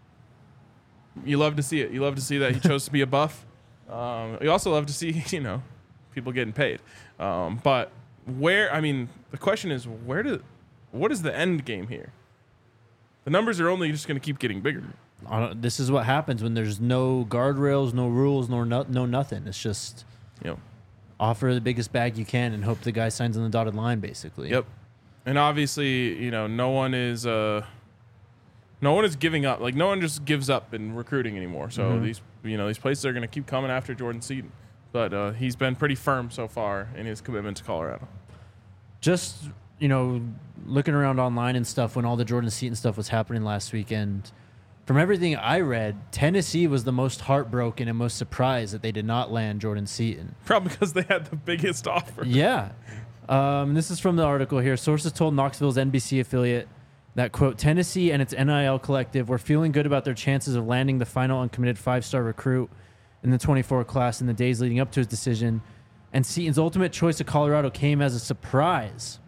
S2: you love to see it. You love to see that he chose to be a Buff. Um, you also love to see, you know, people getting paid. Um, but where, I mean, the question is, where do, what is the end game here? The numbers are only just going to keep getting bigger.
S1: I don't- This is what happens when there's no guardrails, no rules, no, no, no nothing. It's just
S2: You know.
S1: offer the biggest bag you can and hope the guy signs on the dotted line, basically.
S2: Yep. And obviously, you know, no one is uh no one is giving up. Like no one just gives up in recruiting anymore. So
S1: Mhm.
S2: these you know, these places are going to keep coming after Jordan Seaton. But uh, he's been pretty firm so far in his commitment to Colorado.
S1: Just, you know, looking around online and stuff when all the Jordan Seaton stuff was happening last weekend, from everything I read, Tennessee was the most heartbroken and most surprised that they did not land Jordan Seaton.
S2: Probably because they had the biggest offer.
S1: Yeah. Um, this is from the article here. Sources told Knoxville's N B C affiliate that, quote, Tennessee and its N I L collective were feeling good about their chances of landing the final uncommitted five-star recruit in the twenty-four class in the days leading up to his decision, and Seaton's ultimate choice of Colorado came as a surprise.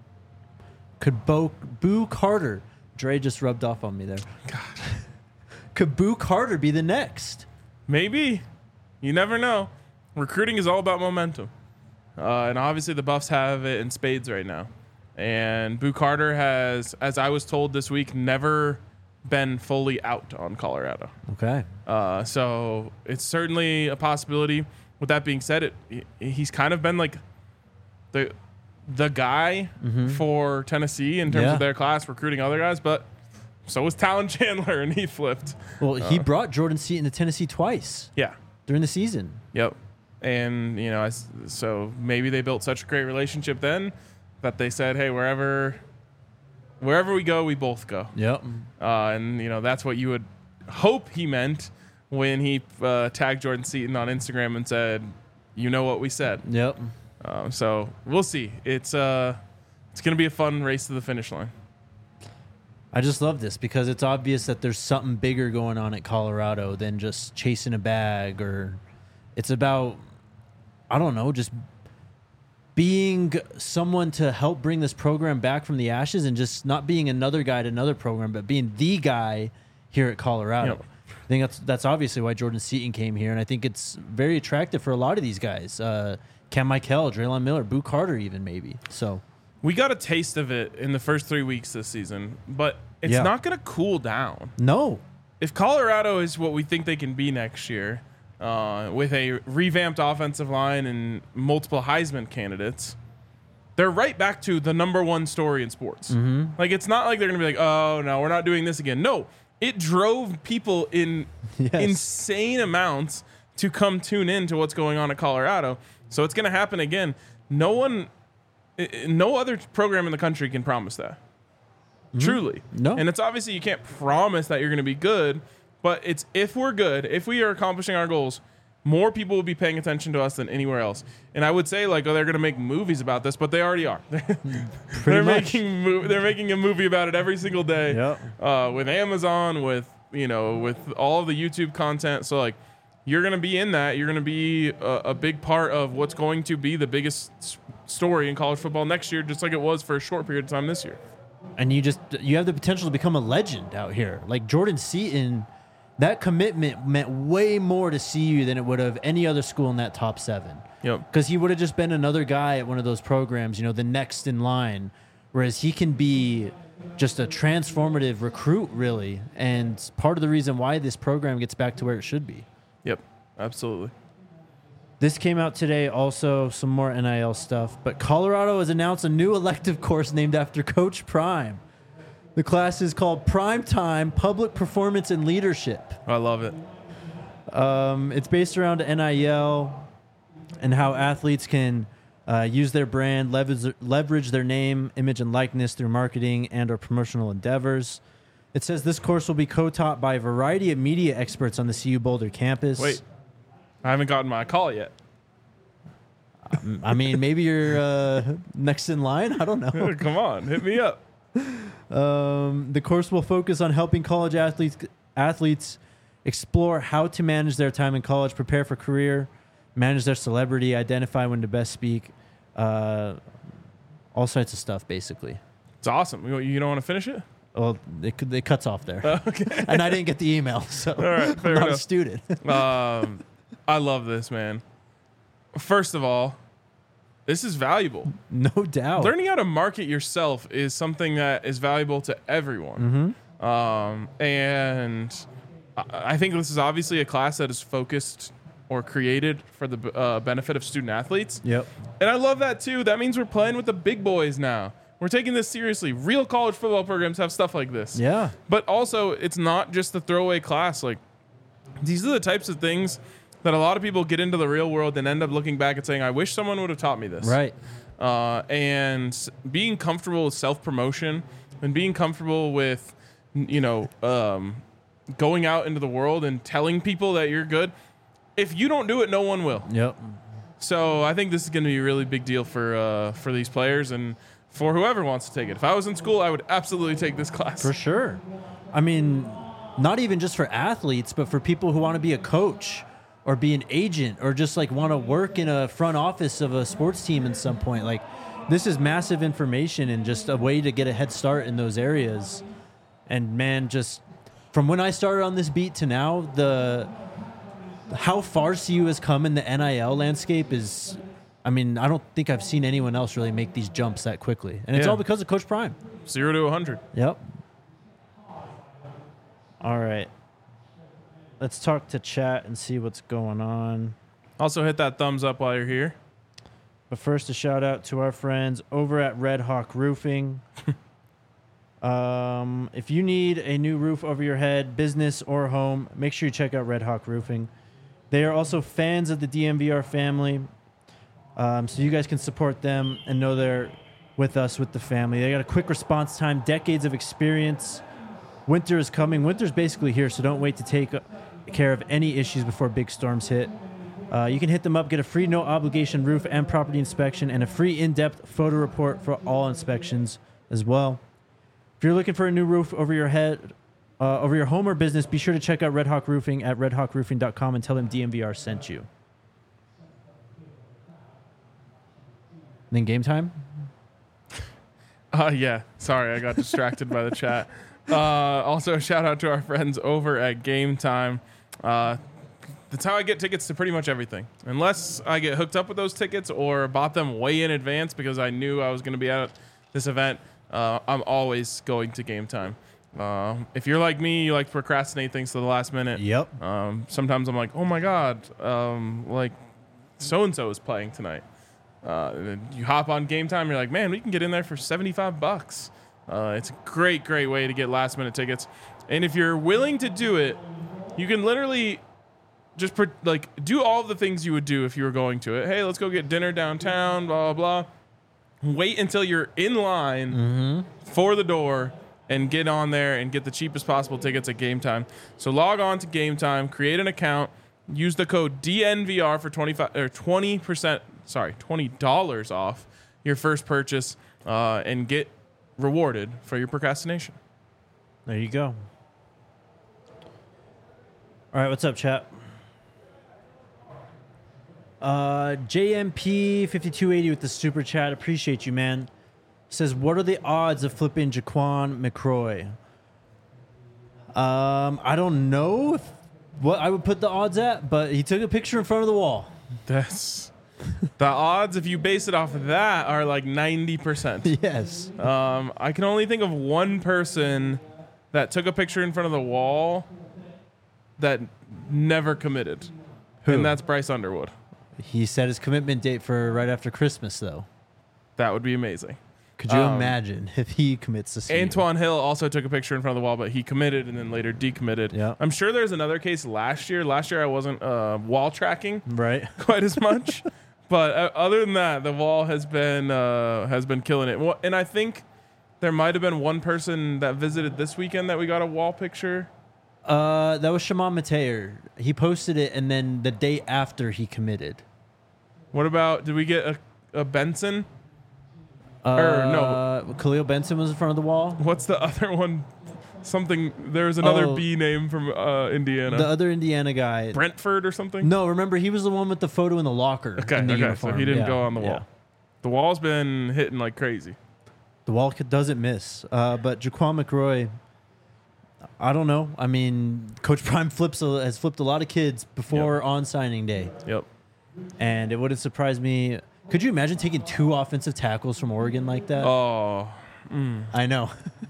S1: Could Bo- Boo Carter, Dre just rubbed off on me there.
S2: God.
S1: Could Boo Carter be the next?
S2: Maybe. You never know. Recruiting is all about momentum. Uh, and obviously the Buffs have it in spades right now. And Boo Carter has, as I was told this week, never been fully out on Colorado.
S1: Okay.
S2: Uh, so it's certainly a possibility. With that being said, it he's kind of been like the the guy
S1: Mm-hmm.
S2: for Tennessee in terms
S1: Yeah.
S2: of their class recruiting other guys, but so was Talon Chandler, and he flipped.
S1: Well, he
S2: Uh.
S1: brought Jordan Seaton to Tennessee twice
S2: Yeah.
S1: during the season.
S2: Yep. And, you know, I s so maybe they built such a great relationship then that they said, hey, wherever wherever we go, we both go.
S1: Yep.
S2: Uh, and, you know, that's what you would hope he meant when he uh, tagged Jordan Seaton on Instagram and said, you know what we said.
S1: Yep.
S2: Um, so we'll see. It's uh, it's going to be a fun race to the finish line.
S1: I just love this because it's obvious that there's something bigger going on at Colorado than just chasing a bag, or it's about, I don't know, just being someone to help bring this program back from the ashes and just not being another guy to another program, but being the guy here at Colorado.
S2: Yep.
S1: I think that's that's obviously why Jordan Seaton came here, and I think it's very attractive for a lot of these guys. Uh, Cam Michael, Draylon Miller, Boo Carter even maybe. So
S2: We got a taste of it in the first three weeks this season, but it's
S1: Yeah.
S2: not going to cool down.
S1: no.
S2: If Colorado is what we think they can be next year, uh, with a revamped offensive line and multiple Heisman candidates, they're right back to the number one story in sports.
S1: Mm-hmm.
S2: Like, it's not like they're going to be like, oh, no, we're not doing this again. No, it drove people in
S1: Yes.
S2: insane amounts to come tune in to what's going on at Colorado. So it's going to happen again. No one, i- i- no other program in the country can promise that. Truly.
S1: No.
S2: And it's obviously you can't promise that you're going to be good, but it's if we're good, if we are accomplishing our goals, more people will be paying attention to us than anywhere else. And I would say like, oh, they're going to make movies about this, but they already are. they're
S1: much.
S2: making mo- they're making a movie about it every single day.
S1: Yep.
S2: Uh, with Amazon, with you know, with all of the YouTube content. So like, you're going to be in that. You're going to be a, a big part of what's going to be the biggest s- story in college football next year, just like it was for a short period of time this year.
S1: And you just you have the potential to become a legend out here. Like Jordan Seaton, that commitment meant way more to C U than it would have any other school in that top seven.
S2: Yep.
S1: Because he would have just been another guy at one of those programs, you know, the next in line. Whereas he can be just a transformative recruit, really. And part of the reason why this program gets back to where it should be.
S2: Yep. Absolutely.
S1: This came out today, also some more N I L stuff. But Colorado has announced a new elective course named after Coach Prime. The class is called Primetime Public Performance and Leadership.
S2: I love it.
S1: Um, it's based around N I L and how athletes can uh, use their brand, leverage, leverage their name, image, and likeness through marketing and or promotional endeavors. It says this course will be co-taught by a variety of media experts on the C U Boulder campus.
S2: Wait, I haven't gotten my call yet.
S1: I mean, maybe you're uh, next in line. I don't know.
S2: Come on, hit me up.
S1: Um, the course will focus on helping college athletes athletes explore how to manage their time in college, prepare for career, manage their celebrity, identify when to best speak, uh, all sorts of stuff, basically.
S2: It's awesome. You, you don't want to finish it?
S1: Well, it, it cuts off there.
S2: Okay.
S1: And I didn't get the email, so
S2: right, fair
S1: I'm not
S2: enough.
S1: a student.
S2: Um, I love this, man. First of all, this is valuable.
S1: No doubt.
S2: Learning how to market yourself is something that is valuable to everyone.
S1: Mm-hmm.
S2: Um, and I I think this is obviously a class that is focused or created for the uh, benefit of student athletes.
S1: Yep.
S2: And I love that too. That means we're playing with the big boys now. We're taking this seriously. Real college football programs have stuff like this.
S1: Yeah.
S2: But also, it's not just the throwaway class. Like, these are the types of things that a lot of people get into the real world and end up looking back and saying, I wish someone would have taught me this.
S1: Right.
S2: Uh, and being comfortable with self-promotion and being comfortable with, you know, um, going out into the world and telling people that you're good. If you don't do it, no one will.
S1: Yep.
S2: So I think this is going to be a really big deal for uh, for these players and for whoever wants to take it. If I was in school, I would absolutely take this class.
S1: For sure. I mean, not even just for athletes, but for people who want to be a coach or be an agent or just like want to work in a front office of a sports team at some point. Like, this is massive information and just a way to get a head start in those areas. And man, just from when I started on this beat to now, the how far C U has come in the N I L landscape is, I mean, I don't think I've seen anyone else really make these jumps that quickly. And it's
S2: Yeah.
S1: all because of Coach Prime.
S2: Zero to a hundred.
S1: Yep. All right. Let's talk to chat and see what's going on.
S2: Also, hit that thumbs up while you're here.
S1: But first, a shout out to our friends over at Red Hawk Roofing. um, if you need a new roof over your head, business or home, make sure you check out Red Hawk Roofing. They are also fans of the D M V R family, um, so you guys can support them and know they're with us, with the family. They got a quick response time, decades of experience. Winter is coming. Winter's basically here, so don't wait to take care of any issues before big storms hit. Uh, you can hit them up, get a free no-obligation roof and property inspection, and a free in-depth photo report for all inspections as well. If you're looking for a new roof over your head, uh, over your home or business, be sure to check out Red Hawk Roofing at red hawk roofing dot com and tell them D M V R sent you. And then game time?
S2: Uh, yeah. Sorry, I got distracted by the chat. Uh, also, a shout out to our friends over at Game Time. Uh, that's how I get tickets to pretty much everything. Unless I get hooked up with those tickets or bought them way in advance because I knew I was going to be at this event, uh, I'm always going to Game Time. Uh, if you're like me, you like to procrastinate things to the last minute.
S1: Yep.
S2: Um, sometimes I'm like, oh my God, um, like so-and-so is playing tonight. Uh, and you hop on Game Time, you're like, man, we can get in there for seventy-five bucks. Uh, it's a great, great way to get last minute tickets. And if you're willing to do it, you can literally just pre- like do all the things you would do if you were going to it. Hey, let's go get dinner downtown, blah, blah, blah. Wait until you're in line
S1: Mm-hmm.
S2: for the door and get on there and get the cheapest possible tickets at Game Time. So log on to Game Time, create an account, use the code D N V R for twenty-five or twenty percent, sorry, twenty dollars off your first purchase, uh, and get rewarded for your procrastination.
S1: There you go. All right, what's up, chat? Uh, J M P fifty-two eighty with the super chat. Appreciate you, man. Says, what are the odds of flipping Jaquan McCroy? Um, I don't know if, what I would put the odds at, but he took a picture in front of the wall.
S2: That's the odds. If you base it off of that, are like ninety percent.
S1: Yes.
S2: Um, I can only think of one person that took a picture in front of the wall that never committed,
S1: Who?
S2: and that's Bryce Underwood.
S1: He set his commitment date for right after Christmas, though.
S2: That would be amazing.
S1: Could you
S2: Um,
S1: imagine if he commits to C U?
S2: Antoine Hill also took a picture in front of the wall, but he committed and then later decommitted.
S1: Yeah.
S2: I'm sure there's another case last year. Last year I wasn't uh, wall tracking
S1: Right.
S2: quite as much, but uh, other than that, the wall has been uh, has been killing it. Well, and I think there might have been one person that visited this weekend that we got a wall picture.
S1: Uh, that was Shimon Mateer. He posted it, and then the day after he committed.
S2: What about, did we get a, a Benson?
S1: Uh,
S2: Or, no.
S1: Khalil Benson was in front of the wall.
S2: What's the other one? Something, there was another
S1: Oh.
S2: B name from uh, Indiana.
S1: The other Indiana guy.
S2: Brentford or something?
S1: No, remember, he was the one with the photo in the locker.
S2: Okay,
S1: in the
S2: okay,
S1: uniform.
S2: so he didn't
S1: Yeah,
S2: go on the
S1: yeah.
S2: wall. The wall's been hitting like crazy.
S1: The wall c- doesn't miss. Uh, but Jaquan McRoy, I don't know. I mean, Coach Prime flips a, has flipped a lot of kids before
S2: Yep.
S1: on signing day.
S2: Yep.
S1: And it wouldn't surprise me. Could you imagine taking two offensive tackles from Oregon like that?
S2: Oh,
S1: I know.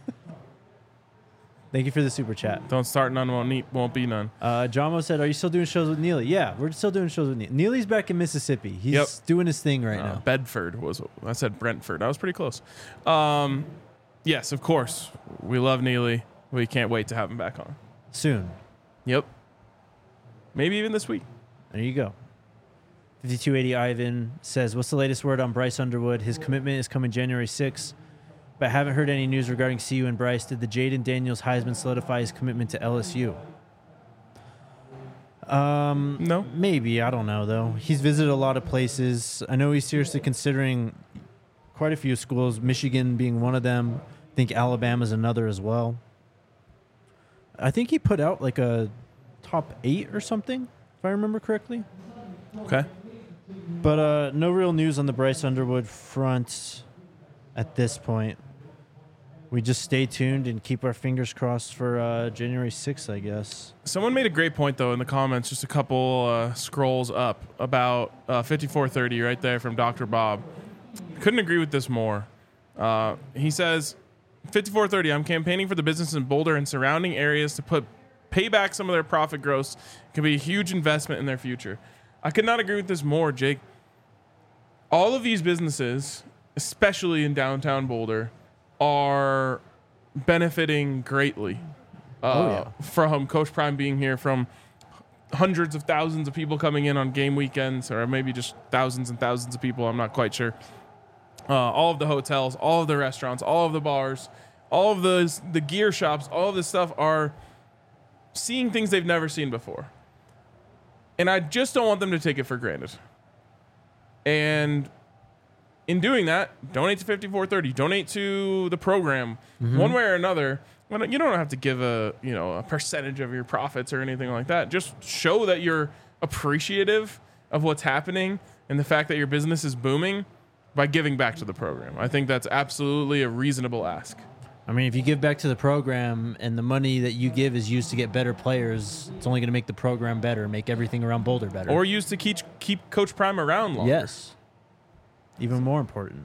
S1: Thank you for the super chat.
S2: don't start none, won't, need, won't be none.
S1: Uh, Jamo said, are you still doing shows with Neely? Yeah, we're still doing shows with Neely. Neely's back in Mississippi. He's
S2: Yep.
S1: doing his thing right
S2: Uh,
S1: now.
S2: Bedford was, I said Brentford. I was pretty close. Um, yes, of course. We love Neely. We can't wait to have him back on.
S1: Soon.
S2: Yep. Maybe even this week.
S1: There you go. fifty-two eighty Ivan says, what's the latest word on Bryce Underwood? His commitment is coming January sixth, but haven't heard any news regarding C U and Bryce. Did the Jaden Daniels Heisman solidify his commitment to L S U? Um,
S2: No.
S1: Maybe. I don't know, though. He's visited a lot of places. I know he's seriously considering quite a few schools, Michigan being one of them. I think Alabama's another as well. I think he put out like a top eight or something, if I remember correctly.
S2: Okay.
S1: But uh, no real news on the Bryce Underwood front at this point. We just stay tuned and keep our fingers crossed for uh, January sixth, I guess.
S2: Someone made a great point, though, in the comments, just a couple uh, scrolls up, about uh, fifty-four thirty right there from Doctor Bob. Couldn't agree with this more. Uh, he says, fifty-four thirty, I'm campaigning for the business in Boulder and surrounding areas to put pay back some of their profit gross. It can be a huge investment in their future. I could not agree with this more, Jake. All of these businesses, especially in downtown Boulder, are benefiting greatly uh,
S1: Oh, yeah.
S2: from Coach Prime being here, from hundreds of thousands of people coming in on game weekends, or maybe just thousands and thousands of people. I'm not quite sure. Uh, all of the hotels, all of the restaurants, all of the bars, all of the the gear shops, all of this stuff are seeing things they've never seen before. And I just don't want them to take it for granted. And in doing that, donate to fifty-four thirty. Donate to the program,
S1: Mm-hmm.
S2: one way or another. Well, you don't have to give a you know a percentage of your profits or anything like that. Just show that you're appreciative of what's happening and the fact that your business is booming by giving back to the program. I think that's absolutely a reasonable ask.
S1: I mean, if you give back to the program and the money that you give is used to get better players, it's only going to make the program better, make everything around Boulder better.
S2: Or used to keep keep Coach Prime around longer.
S1: Yes. Even more important.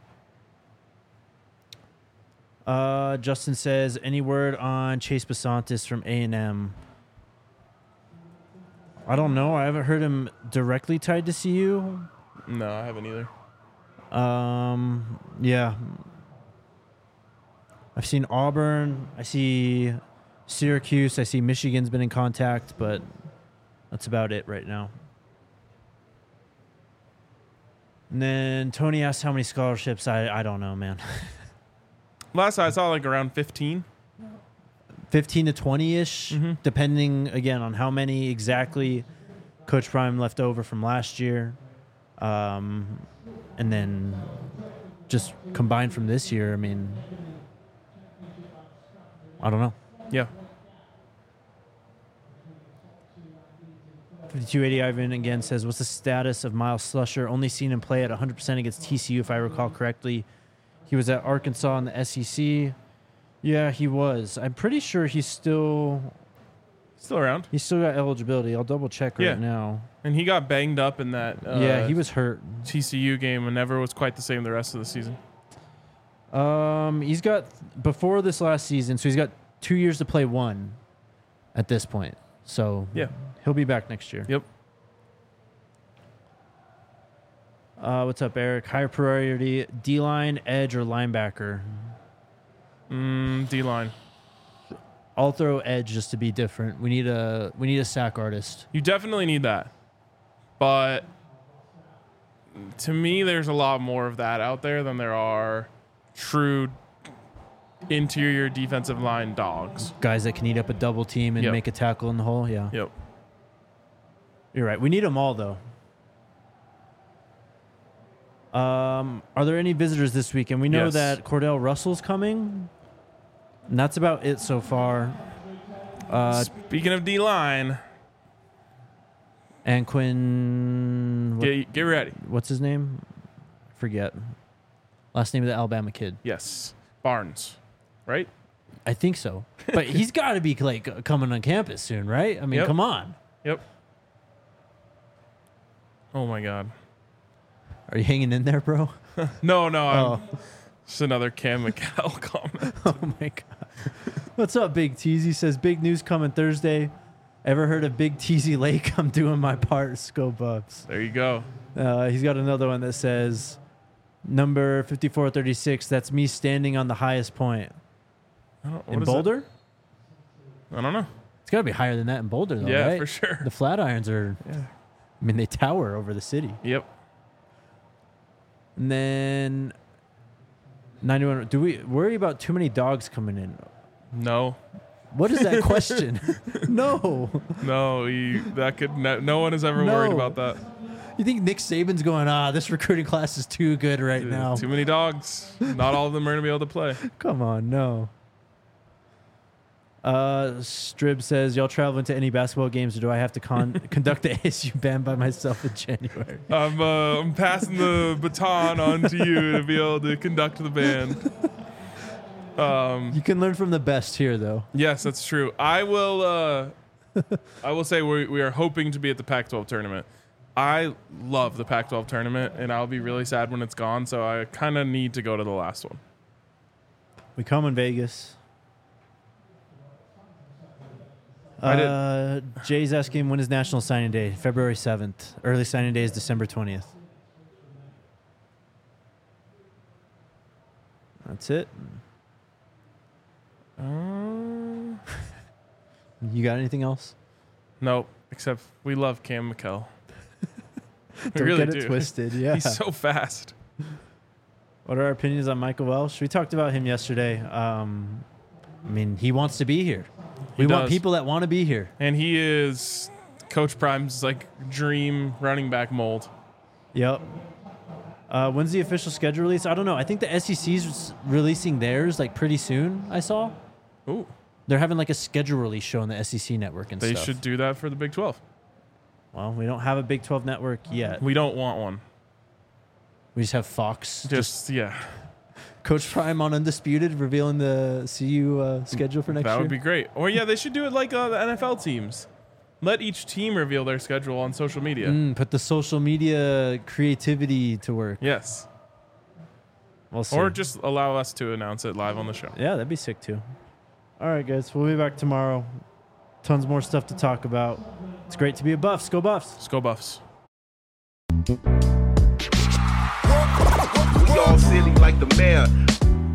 S1: Uh, Justin says, any word on Chase Basantis from A and M? I don't know. I haven't heard him directly tied to C U.
S2: No, I haven't either.
S1: Um, yeah. I've seen Auburn. I see Syracuse. I see Michigan's been in contact, but that's about it right now. And then Tony asked how many scholarships. I, I don't know, man.
S2: Last I saw, like around fifteen.
S1: fifteen to twenty-ish,
S2: Mm-hmm.
S1: depending, again, on how many exactly Coach Prime left over from last year. Um, and then just combined from this year, I mean, I don't know.
S2: Yeah.
S1: fifty-two eighty Ivan again says, what's the status of Miles Slusher? Only seen him play at one hundred percent against T C U, if I recall correctly. He was at Arkansas in the S E C. Yeah, he was. I'm pretty sure he's still
S2: Still around.
S1: he's still got eligibility. I'll double check right
S2: Yeah.
S1: now.
S2: And he got banged up in that uh,
S1: yeah, he was hurt.
S2: T C U game and never was quite the same the rest of the season.
S1: Um, he's got before this last season, so he's got two years to play one at this point. So
S2: Yeah.
S1: he'll be back next year.
S2: Yep.
S1: Uh, what's up, Eric? Higher priority, D-line, edge, or linebacker?
S2: Mm, D-line.
S1: I'll throw edge just to be different. We need a we need a sack artist.
S2: You definitely need that. But to me, there's a lot more of that out there than there are true interior defensive line dogs.
S1: Guys that can eat up a double team and
S2: Yep.
S1: make a tackle in the hole. Yeah,
S2: Yep.
S1: you're right. We need them all, though. Um, are there any visitors this weekend? We know
S2: Yes.
S1: that Cordell Russell's coming, and that's about it so far. Uh,
S2: Speaking of D-line,
S1: and Quinn, what-
S2: get, get ready.
S1: what's his name? Forget. Last name of the Alabama kid.
S2: Yes. Barnes. Right?
S1: I think so. But he's got to be like coming on campus soon, right? I mean,
S2: Yep.
S1: come on.
S2: Yep. Oh, my God.
S1: Are you hanging in there, bro?
S2: No, no. I'm,
S1: Oh.
S2: Just another Cam McHale comment.
S1: Oh my god. What's up, Big Teasy? Says big news coming Thursday. Ever heard of Big Teasy Lake? I'm doing my part. Scope ups.
S2: There you go.
S1: Uh, he's got another one that says number fifty-four thirty-six. That's me standing on the highest point
S2: I don't, what
S1: in
S2: is that?
S1: Boulder.
S2: I don't know.
S1: It's got to be higher than that in Boulder, though,
S2: Yeah,
S1: right?
S2: for sure.
S1: The Flatirons are.
S2: Yeah.
S1: I mean, they tower over the city.
S2: Yep.
S1: And then ninety-one. Do we worry about too many dogs coming in?
S2: No.
S1: What is that question? No.
S2: No, you, that could no, no one has ever worried
S1: No.
S2: about that.
S1: You think Nick Saban's going, ah, this recruiting class is too good right now?
S2: Too many dogs. Not all of them are going to be able to play.
S1: Come on, no. Uh, Strib says, y'all traveling to any basketball games, or do I have to con- conduct the A S U band by myself in January?
S2: I'm uh, I'm passing the baton on to you to be able to conduct the band. Um,
S1: You can learn from the best here, though.
S2: yes, that's true. I will. Uh, I will say we we are hoping to be at the Pac twelve tournament. I love the Pac twelve tournament, and I'll be really sad when it's gone. So I kind of need to go to the last one.
S1: We come in Vegas.
S2: I did-
S1: Uh, Jay's asking, when is National Signing Day? February seventh. Early signing day is December twentieth. That's it.
S2: Uh,
S1: You got anything else?
S2: nope. Except we love Cam McHale. We
S1: Don't
S2: really
S1: get it
S2: do.
S1: twisted. Yeah.
S2: He's so fast.
S1: What are our opinions on Michael Welsh? We talked about him yesterday. Um, I mean, he wants to be here.
S2: He
S1: We want
S2: does.
S1: people that want to be here.
S2: And he is Coach Prime's like dream running back mold.
S1: Yep. Uh, when's the official schedule release? I don't know. I think the S E C's releasing theirs like pretty soon. I saw
S2: Ooh,
S1: they're having like a schedule release show on the S E C network and
S2: they
S1: stuff.
S2: should do that for the Big twelve.
S1: Well, we don't have a Big twelve network yet.
S2: We don't want one.
S1: We just have Fox.
S2: Just, yeah,
S1: Coach Prime on Undisputed revealing the C U uh, schedule for next
S2: that
S1: year.
S2: would be great. Or yeah, they should do it like uh, the N F L teams. Let each team reveal their schedule on social media.
S1: Mm, put the social media creativity to work.
S2: Yes.
S1: We'll see.
S2: Or just allow us to announce it live on the show.
S1: Yeah, that'd be sick too. All right, guys. We'll be back tomorrow. Tons more stuff to talk about. It's great to be a Buffs. Go Buffs.
S2: Let's go Buffs.
S4: We all silly like the mayor.